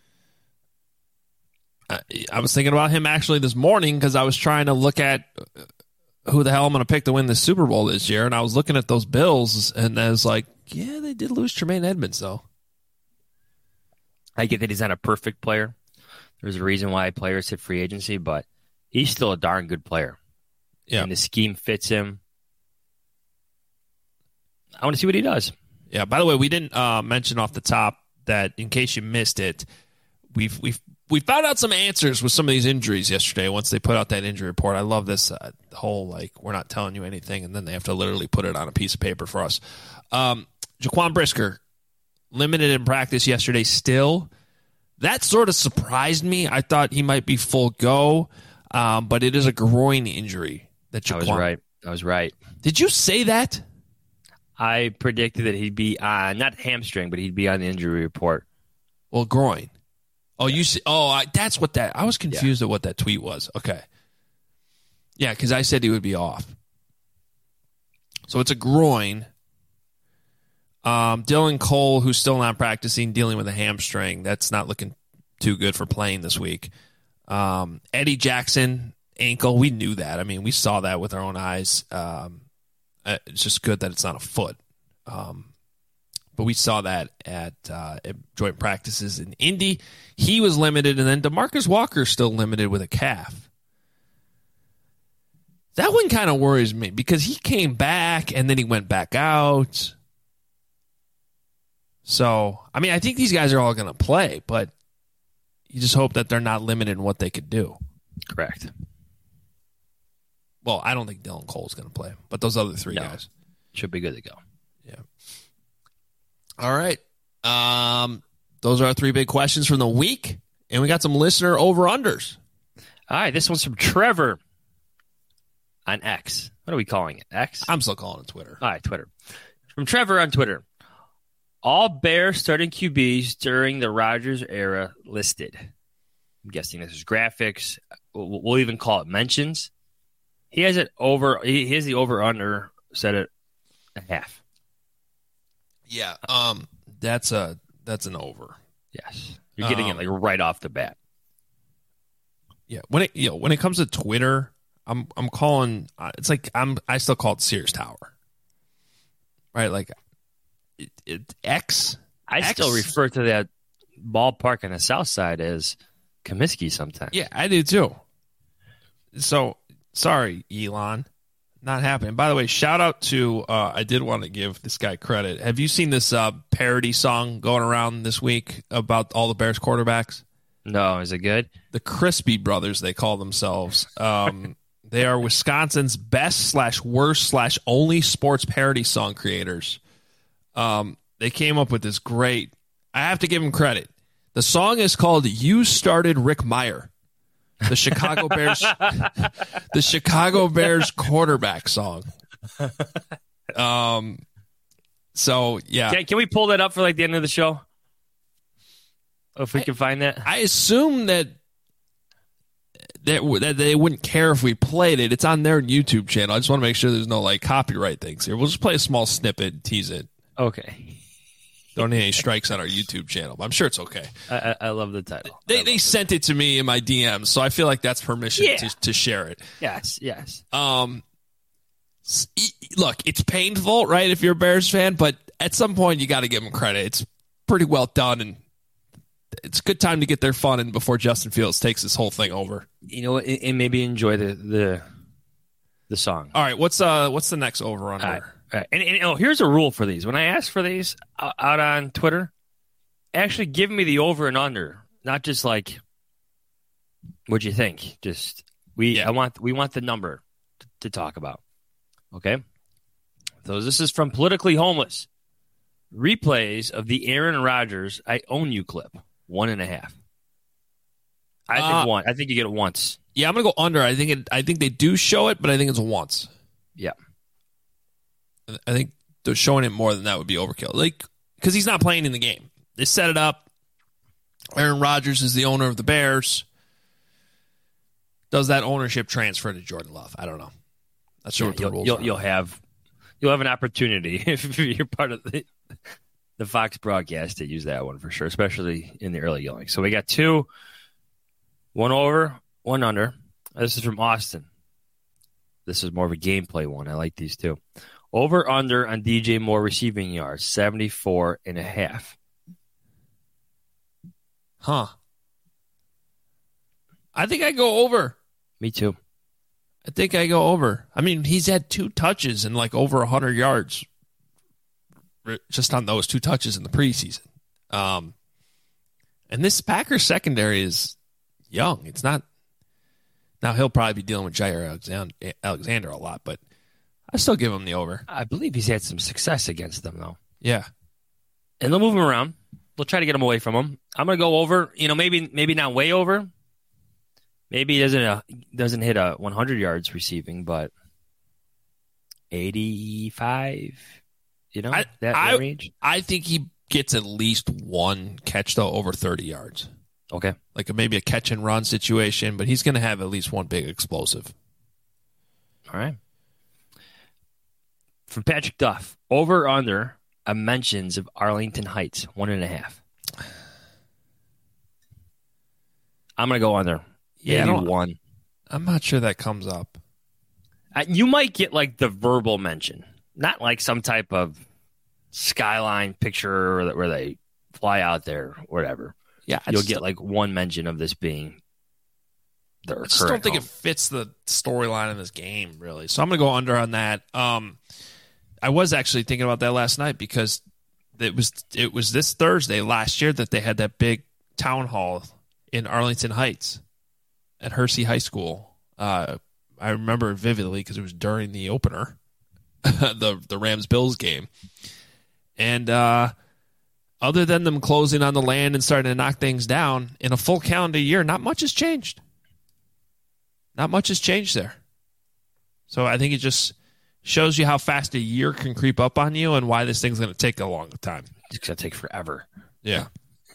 S12: I, I was thinking about him actually this morning because I was trying to look at who the hell I'm going to pick to win the Super Bowl this year, and I was looking at those Bills, and I was like, yeah, they did lose Tremaine Edmonds, though.
S9: I get that he's not a perfect player. There's a reason why players hit free agency, but he's still a darn good player.
S12: Yeah.
S9: And the scheme fits him. I want to see what he does.
S12: Yeah, by the way, we didn't uh, mention off the top that, in case you missed it, we've we've we found out some answers with some of these injuries yesterday once they put out that injury report. I love this uh, whole, like, we're not telling you anything, and then they have to literally put it on a piece of paper for us. Um, Jaquan Brisker, limited in practice yesterday still. That sort of surprised me. I thought he might be full go, um, but it is a groin injury. That Jaquan.
S9: I was right. I was right.
S12: Did you say that?
S9: I predicted that he'd be on, not hamstring, but he'd be on the injury report.
S12: Well, groin. Oh, you see? Oh, I, that's what that. I was confused yeah. at what that tweet was. Okay. Yeah, because I said he would be off. So it's a groin. Um, Dylan Cole, who's still not practicing, dealing with a hamstring. That's not looking too good for playing this week. Um, Eddie Jackson, ankle. We knew that. I mean, we saw that with our own eyes. Um, it's just good that it's not a foot. Um, but we saw that at, uh, at joint practices in Indy. He was limited, and then DeMarcus Walker's still limited with a calf. That one kind of worries me because he came back, and then he went back out. So, I mean, I think these guys are all going to play, but you just hope that they're not limited in what they could do.
S9: Correct.
S12: Well, I don't think Dylan Cole's going to play, but those other three
S9: no.
S12: guys
S9: should be good to go.
S12: Yeah. All right. Um, those are our three big questions from the week, and we got some listener over-unders.
S9: All right, this one's from Trevor on X. What are we calling it? X?
S12: I'm still calling it Twitter.
S9: All right, Twitter. From Trevor on Twitter. All Bears starting Q Bs during the Rodgers era listed. I'm guessing this is graphics. We'll, we'll even call it mentions. He has it over. He has the over under set at a half.
S12: Yeah, um, that's a that's an over.
S9: Yes, you're getting um, it like right off the bat.
S12: Yeah, when it you know when it comes to Twitter, I'm I'm calling. Uh, it's like I'm I still call it Sears Tower, right? Like it, it, X.
S9: I
S12: X,
S9: still refer to that ballpark on the south side as Comiskey sometimes.
S12: Yeah, I do too. So sorry, Elon. Not happening. By the way, shout out to, uh, I did want to give this guy credit. Have you seen this uh, parody song going around this week about all the Bears quarterbacks?
S9: No, is it good?
S12: The Crispy Brothers, they call themselves. Um, they are Wisconsin's best slash worst slash only sports parody song creators. Um, they came up with this great, I have to give them credit. The song is called You Started Rick Meyer. The Chicago Bears, the Chicago Bears quarterback song. Um, so yeah,
S9: can, can we pull that up for like the end of the show? If we I, can find that,
S12: I assume that that that they wouldn't care if we played it. It's on their YouTube channel. I just want to make sure there's no like copyright things here. We'll just play a small snippet, and tease it.
S9: Okay.
S12: Don't need any strikes on our YouTube channel, but I'm sure it's okay.
S9: I, I love the title.
S12: They they sent it to me in my D Ms, so I feel like that's permission
S9: yeah.
S12: to, to share it.
S9: Yes, yes.
S12: Um, look, it's painful, right, if you're a Bears fan, but at some point you got to give them credit. It's pretty well done, and it's a good time to get their fun in before Justin Fields takes this whole thing over.
S9: You know, and, and maybe enjoy the, the the song.
S12: All right, what's uh what's the next over under?
S9: All right. Right. And, and oh, here's a rule for these. When I ask for these out on Twitter, actually give me the over and under, not just like, what'd you think? Just we, yeah. I want we want the number to, to talk about. Okay. So this is from Politically Homeless. Replays of the Aaron Rodgers "I Own You" clip, one and a half. I think uh, one. I think you get it once.
S12: Yeah, I'm gonna go under. I think it. I think they do show it, but I think it's once.
S9: Yeah.
S12: I think they're showing it more than that would be overkill. Like, because he's not playing in the game. They set it up. Aaron Rodgers is the owner of the Bears. Does that ownership transfer to Jordan Love? I don't know. That's sure
S9: yeah,
S12: what the
S9: you'll,
S12: rules
S9: you'll,
S12: are.
S9: You'll have you'll have an opportunity if you're part of the, the Fox broadcast to use that one for sure, especially in the early going. So we got two, one over, one under. This is from Austin. This is more of a gameplay one. I like these two. Over under on D J Moore receiving yards, seventy-four and a half.
S12: Huh. I think I go over.
S9: Me too.
S12: I think I go over. I mean, he's had two touches and like over one hundred yards just on those two touches in the preseason. Um, and this Packers secondary is young. It's not. Now, he'll probably be dealing with Jair Alexander, Alexander a lot, but I still give him the over.
S9: I believe he's had some success against them, though.
S12: Yeah.
S9: And they'll move him around. They'll try to get him away from him. I'm going to go over. You know, maybe maybe not way over. Maybe he doesn't uh, doesn't hit a one hundred yards receiving, but eighty-five, you know,
S12: I,
S9: that,
S12: I,
S9: that range.
S12: I think he gets at least one catch, though, over thirty yards.
S9: Okay.
S12: Like a, maybe a catch and run situation, but he's going to have at least one big explosive.
S9: All right. From Patrick Duff, over or under a mentions of Arlington Heights, one and a half. I'm going to go under.
S12: Yeah,
S9: Maybe one.
S12: I'm not sure that comes up.
S9: Uh, you might get like the verbal mention, not like some type of skyline picture where they fly out there, whatever.
S12: Yeah, I
S9: you'll
S12: just,
S9: get like one mention of this being their
S12: I just don't think
S9: home.
S12: it fits the storyline in this game, really. So I'm going to go under on that. Um, I was actually thinking about that last night because it was it was this Thursday last year that they had that big town hall in Arlington Heights at Hersey High School. Uh, I remember it vividly because it was during the opener, the the Rams-Bills game. And uh, other than them closing on the land and starting to knock things down, in a full calendar year, not much has changed. Not much has changed there. So I think it just shows you how fast a year can creep up on you and why this thing's going to take a long time.
S9: It's going to take forever.
S12: Yeah.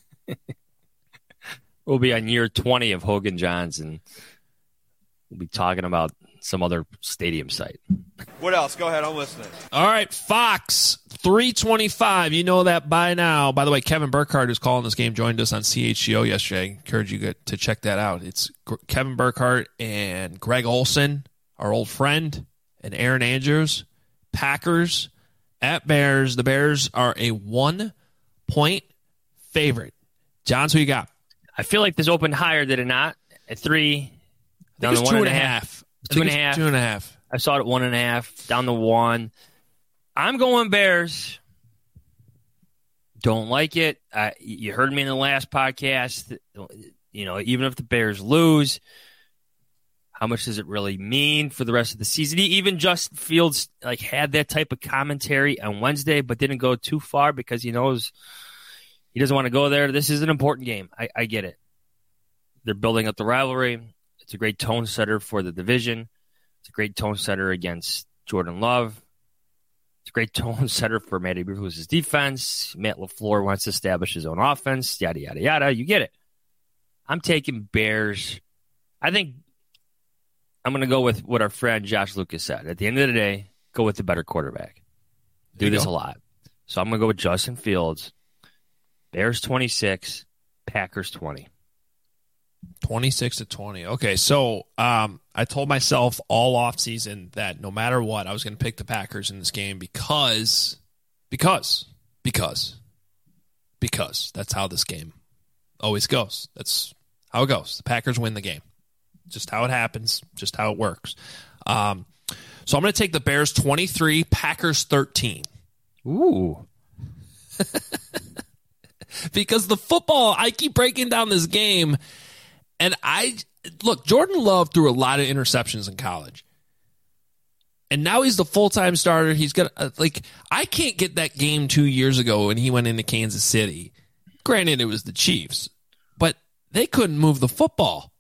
S9: We'll be on year twenty of Hogan Johns, and we'll be talking about some other stadium site.
S2: What else? Go ahead. I'm listening.
S12: All right, Fox, three twenty-five. You know that by now. By the way, Kevin Burkhardt, who's calling this game, joined us on C H G O yesterday. I encourage you to check that out. It's Kevin Burkhardt and Greg Olson, our old friend, and Aaron Andrews. Packers at Bears. The Bears are a one-point favorite. Johns, who you got?
S9: I feel like this opened higher, did it not? At three, down to one
S12: two
S9: and
S12: and
S9: a
S12: a
S9: half.
S12: half.
S9: Two and a half.
S12: Two and a half.
S9: I saw it at one and a half, down to one. I'm going Bears. Don't like it. Uh, you heard me in the last podcast. You know, even if the Bears lose, how much does it really mean for the rest of the season? Even Justin Fields like had that type of commentary on Wednesday, but didn't go too far because he knows he doesn't want to go there. This is an important game. I, I get it. They're building up the rivalry. It's a great tone setter for the division. It's a great tone setter against Jordan Love. It's a great tone setter for Matty Bruce's defense. Matt LaFleur wants to establish his own offense, yada, yada, yada. You get it. I'm taking Bears. I think I'm going to go with what our friend Josh Lucas said. At the end of the day, go with the better quarterback. Do this
S12: go.
S9: a lot. So I'm going to go with Justin Fields. Bears twenty-six, Packers twenty.
S12: twenty-six to twenty. Okay, so um, I told myself all offseason that no matter what, I was going to pick the Packers in this game because, because, because, because that's how this game always goes. That's how it goes. The Packers win the game. Just how it happens, just how it works. Um, so I'm going to take the Bears twenty-three, Packers thirteen.
S9: Ooh.
S12: Because the football, I keep breaking down this game, and I look, Jordan Love threw a lot of interceptions in college. And now he's the full-time starter. He's got uh, like I can't get that game two years ago when he went into Kansas City. Granted, it was the Chiefs, but they couldn't move the football.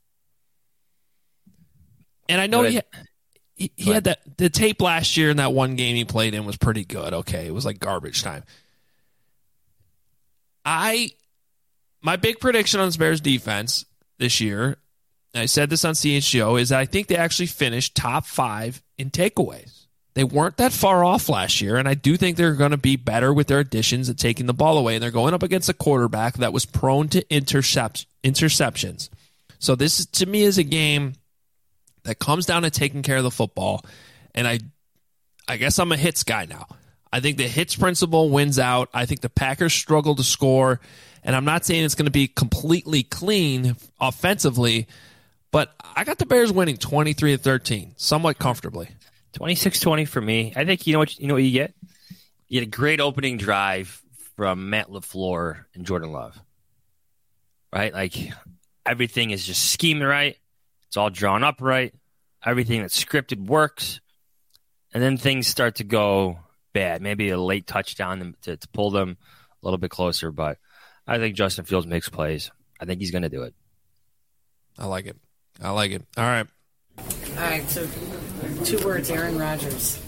S12: And I know he, he, he had that the tape last year in that one game he played in was pretty good. Okay, it was like garbage time. I my big prediction on this Bears defense this year, and I said this on C H G O, is that I think they actually finished top five in takeaways. They weren't that far off last year, and I do think they're going to be better with their additions at taking the ball away, and they're going up against a quarterback that was prone to intercept, interceptions. So this, to me, is a game that comes down to taking care of the football, and I I guess I'm a hits guy now. I think the hits principle wins out. I think the Packers struggle to score, and I'm not saying it's going to be completely clean offensively, but I got the Bears winning twenty-three to thirteen, somewhat comfortably.
S9: twenty-six twenty for me. I think you know what you know what you get? You get a great opening drive from Matt LaFleur and Jordan Love. Right? Like everything is just schemed right. It's all drawn up right. Everything that's scripted works. And then things start to go bad. Maybe a late touchdown to, to pull them a little bit closer, but I think Justin Fields makes plays. I think he's going to do it.
S12: I like it. I like it. All right.
S14: All right, so two words, Aaron Rodgers.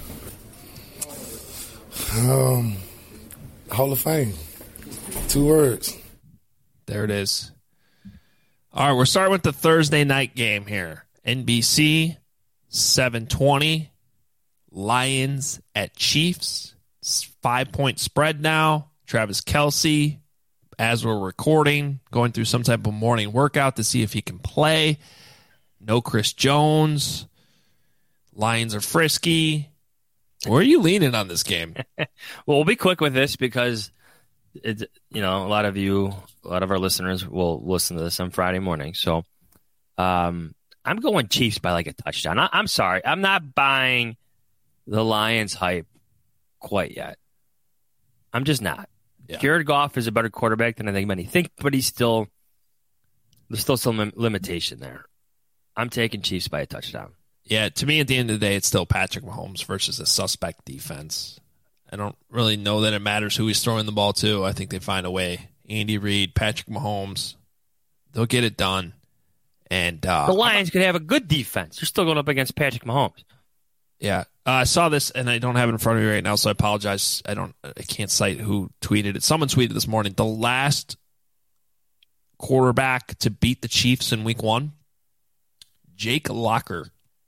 S15: Um, Hall of Fame. Two words.
S12: There it is. All right, we're starting with the Thursday night game here. N B C, seven twenty. Lions at Chiefs. Five-point spread now. Travis Kelce, as we're recording, going through some type of morning workout to see if he can play. No Chris Jones. Lions are frisky. Where are you leaning on this game?
S9: Well, we'll be quick with this because, it, you know, a lot of you, a lot of our listeners will listen to this on Friday morning. So um, I'm going Chiefs by like a touchdown. I, I'm sorry. I'm not buying the Lions hype quite yet. I'm just not. Yeah. Jared Goff is a better quarterback than I think many think, but he's still, there's still some lim- limitation there. I'm taking Chiefs by a touchdown.
S12: Yeah, to me, at the end of the day, it's still Patrick Mahomes versus a suspect defense. I don't really know that it matters who he's throwing the ball to. I think they find a way. Andy Reid, Patrick Mahomes, they'll get it done. And uh,
S9: the Lions could have a good defense. They're still going up against Patrick Mahomes.
S12: Yeah, uh, I saw this, and I don't have it in front of me right now, so I apologize. I don't, I can't cite who tweeted it. Someone tweeted this morning. The last quarterback to beat the Chiefs in Week One, Jake Locker.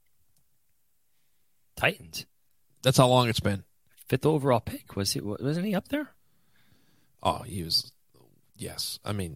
S9: Titans.
S12: That's how long it's been.
S9: Fifth overall pick. Was he? Wasn't he up there?
S12: Oh, he was. Yes, I mean,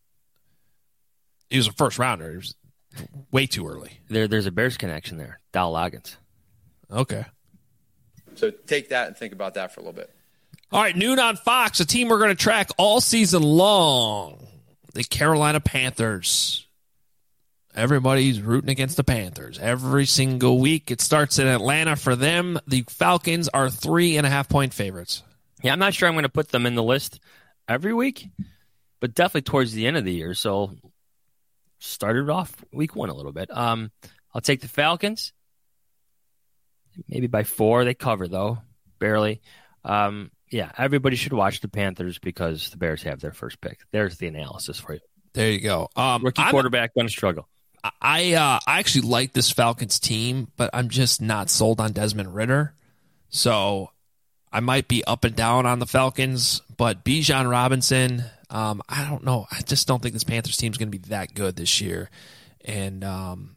S12: he was a first rounder. He was way too early.
S9: There, there's a Bears connection there. Dow Loggins.
S12: Okay.
S16: So take that and think about that for a little bit.
S12: All right, noon on Fox, a team we're going to track all season long. The Carolina Panthers. Everybody's rooting against the Panthers every single week. It starts in Atlanta for them. The Falcons are three and a half point favorites.
S9: Yeah, I'm not sure I'm going to put them in the list every week, but definitely towards the end of the year. So started off week one a little bit. Um, I'll take the Falcons. Maybe by four. They cover, though. Barely. Um, yeah, everybody should watch the Panthers because the Bears have their first pick. There's the analysis for you.
S12: There you go. Um,
S9: Rookie
S12: I'm,
S9: quarterback going to struggle.
S12: I uh, I actually like this Falcons team, but I'm just not sold on Desmond Ridder. So I might be up and down on the Falcons, but Bijan Robinson, um, I don't know. I just don't think this Panthers team is going to be that good this year. And um,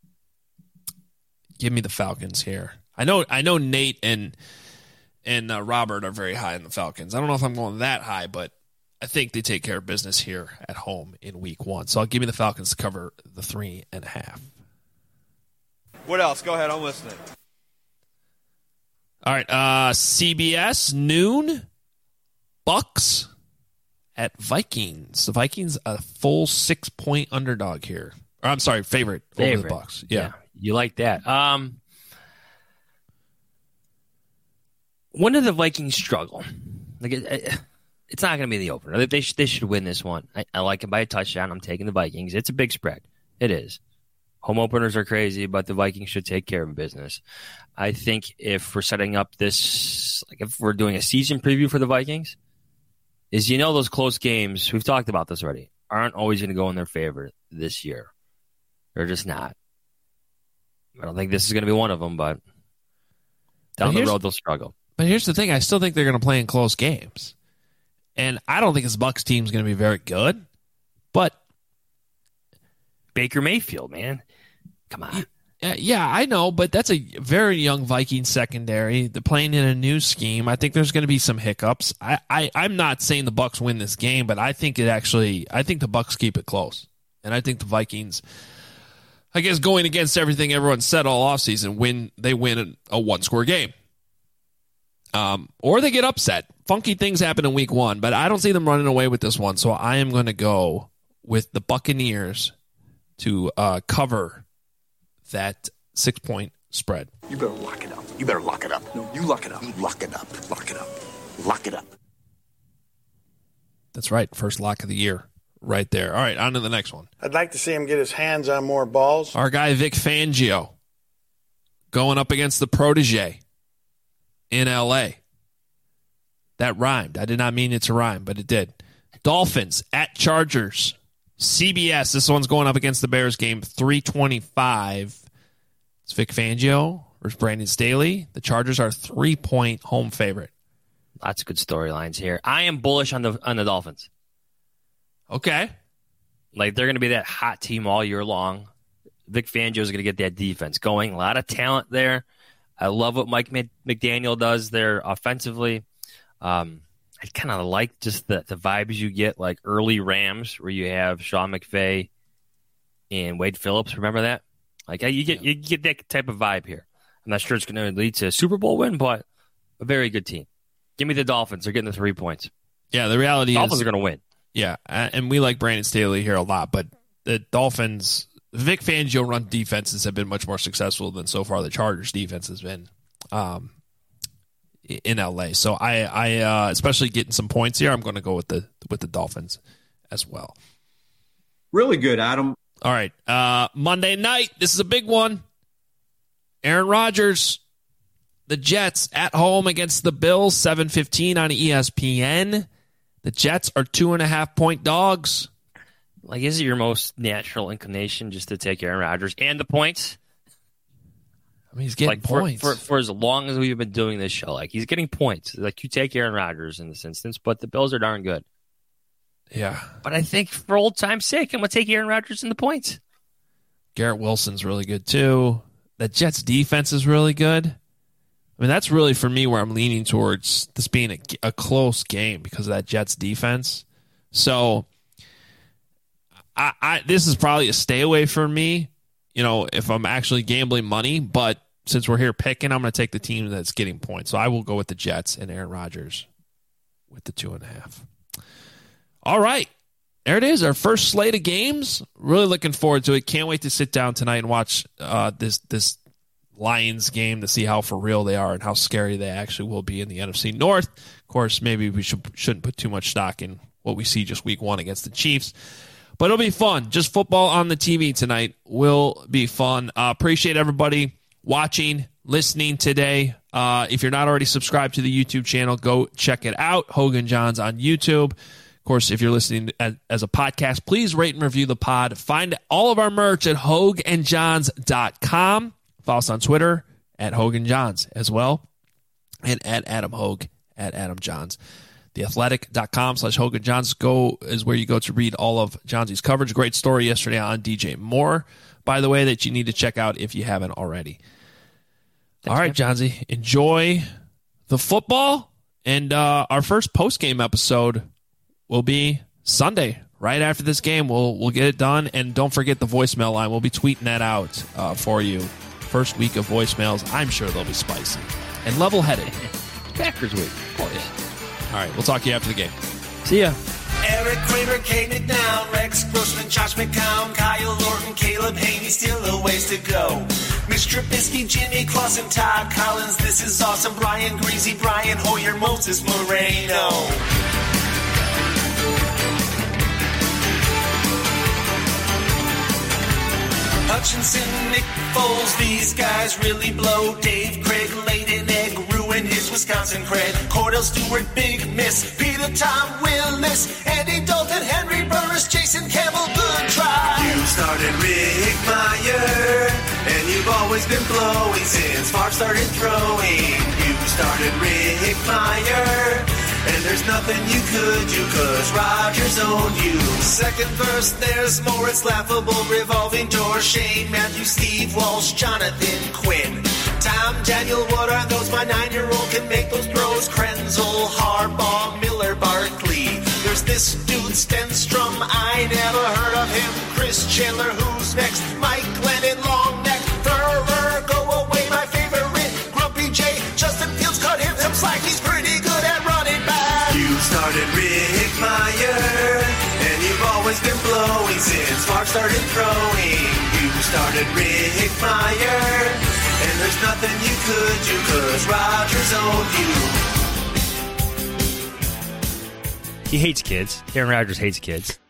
S12: give me the Falcons here. I know I know Nate and and uh, Robert are very high in the Falcons. I don't know if I'm going that high, but I think they take care of business here at home in week one. So I'll give me the Falcons to cover the three and a half.
S17: What else? Go ahead. I'm listening.
S12: All right. Uh, C B S, noon, Bucks at Vikings. The Vikings, a full six-point underdog here. Or, I'm sorry, favorite, favorite. over the Bucks. Yeah. yeah.
S9: You like that. Um, when did the Vikings struggle? Like it, it, It's not going to be the opener. They should, they should win this one. I, I like it by a touchdown. I'm taking the Vikings. It's a big spread. It is. Home openers are crazy, but the Vikings should take care of business. I think if we're setting up this, like if we're doing a season preview for the Vikings, is you know those close games, we've talked about this already, aren't always going to go in their favor this year. They're just not. I don't think this is going to be one of them, but down the road they'll struggle.
S12: But here's the thing. I still think they're going to play in close games. And I don't think this Bucs team is going to be very good.
S9: Baker Mayfield, man. Come on.
S12: Uh, yeah, I know, but that's a very young Viking secondary. They're playing in a new scheme. I think there's going to be some hiccups. I, I, I'm not saying the Bucs win this game, but I think it actually. I think the Bucs keep it close, and I think the Vikings, I guess, going against everything everyone said all offseason, win. They win a, a one-score game, um, or they get upset. Funky things happen in Week One, but I don't see them running away with this one. So I am going to go with the Buccaneers to uh, cover that six-point spread.
S3: You better lock it up. You better lock it up. No, you lock it up. You lock it up. Lock it up. Lock it up.
S12: That's right. First lock of the year right there. All right, on to the next one.
S13: I'd like to see him get his hands on more balls.
S12: Our guy Vic Fangio going up against the protege in L A. That rhymed. I did not mean it to rhyme, but it did. Dolphins at Chargers. C B S, this one's going up against the Bears game, three twenty-five. It's Vic Fangio versus Brandon Staley. The Chargers are three-point home favorite.
S9: Lots of good storylines here. I am bullish on the on the Dolphins.
S12: Okay.
S9: Like, they're going to be that hot team all year long. Vic Fangio is going to get that defense going. A lot of talent there. I love what Mike McDaniel does there offensively. Um I kind of like just the, the vibes you get, like early Rams, where you have Sean McVay and Wade Phillips. Remember that? Like you get you get that type of vibe here. I'm not sure it's going to lead to a Super Bowl win, but a very good team. Give me the Dolphins. They're getting the three points.
S12: Yeah, the reality
S9: Dolphins
S12: is
S9: Dolphins are going to win.
S12: Yeah, and we like Brandon Staley here a lot, but the Dolphins, Vic Fangio run defenses have been much more successful than so far the Chargers defense has been. Um, in L A. So I, I uh, especially getting some points here, I'm going to go with the with the Dolphins as well.
S18: Really good, Adam.
S12: All right. Uh, Monday night, this is a big one. Aaron Rodgers, the Jets at home against the Bills, seven fifteen on E S P N. The Jets are two and a half point dogs.
S9: Like, is it your most natural inclination just to take Aaron Rodgers and the points?
S12: I mean, he's getting
S9: like for,
S12: points.
S9: For, for as long as we've been doing this show. Like, he's getting points. Like, you take Aaron Rodgers in this instance, but the Bills are darn good.
S12: Yeah.
S9: But I think for old time's sake, I'm going to take Aaron Rodgers in the points.
S12: Garrett Wilson's really good, too. The Jets' defense is really good. I mean, that's really, for me, where I'm leaning towards this being a, a close game because of that Jets' defense. So, I, I this is probably a stay away for me, you know, if I'm actually gambling money. But since we're here picking, I'm going to take the team that's getting points. So I will go with the Jets and Aaron Rodgers with the two and a half. All right. There it is, our first slate of games. Really looking forward to it. Can't wait to sit down tonight and watch uh, this this Lions game to see how for real they are and how scary they actually will be in the N F C North. Of course, maybe we should, shouldn't put too much stock in what we see just week one against the Chiefs. But it'll be fun. Just football on the T V tonight will be fun. Uh, appreciate everybody watching, listening today. Uh, if you're not already subscribed to the YouTube channel, go check it out. Hogan Johns on YouTube. Of course, if you're listening as, as a podcast, please rate and review the pod. Find all of our merch at hogue and johns dot com. Follow us on Twitter at Hogan Johns as well. And at Adam Hogue at Adam Johns. theathletic.com slash Hogan Johns go is where you go to read all of Johnsy's coverage. Great story yesterday on D J Moore, by the way, that you need to check out if you haven't already. Thanks, all right, Johnsy, enjoy the football. And uh, our first post-game episode will be Sunday. Right after this game, we'll we'll get it done. And don't forget the voicemail line. We'll be tweeting that out uh, for you. First week of voicemails. I'm sure they'll be spicy and level-headed.
S9: Packers week, of course.
S12: All right, we'll talk to you after the game.
S9: See ya.
S19: Eric Kramer came it down. Rex Grossman, Josh McCown, Kyle Orton, Caleb Haney, still a ways to go. Mitch Trubisky, Jimmy Clausen, Todd Collins, this is awesome. Brian Greasy, Brian Hoyer, Moses Moreno. Hutchinson, Nick Foles, these guys really blow. Dave Craig, Leighton Egg, ruin his Wisconsin cred. Cordell Stewart, big miss. Peter Tom Willis, Andy Dalton, Henry Burris, Jason Campbell, good try. You started Rick Meyer, and you've always been blowing since Favre started throwing. You started Rick Meyer, And there's nothing you could do, cause Rodgers owned you. Second verse, there's more, it's laughable. Revolving door, Shane, Matthew, Steve Walsh, Jonathan Quinn. Tom, Daniel, what are those? My nine-year-old can make those throws. Krenzel, Harbaugh, Miller, Barkley. There's this dude, Stenstrom, I never heard of him. Chris Chandler, who's next? Mike Glennon, long neck. Thurber, go away, my favorite. Grumpy J, Justin Fields, cut him some slack. He's pretty good at running back. You started Rick Meyer, and you've always been blowing since Mark started throwing. You started Rick Meyer, and there's nothing you could do, cause Rodgers owned you.
S20: He hates kids. Aaron Rodgers hates kids.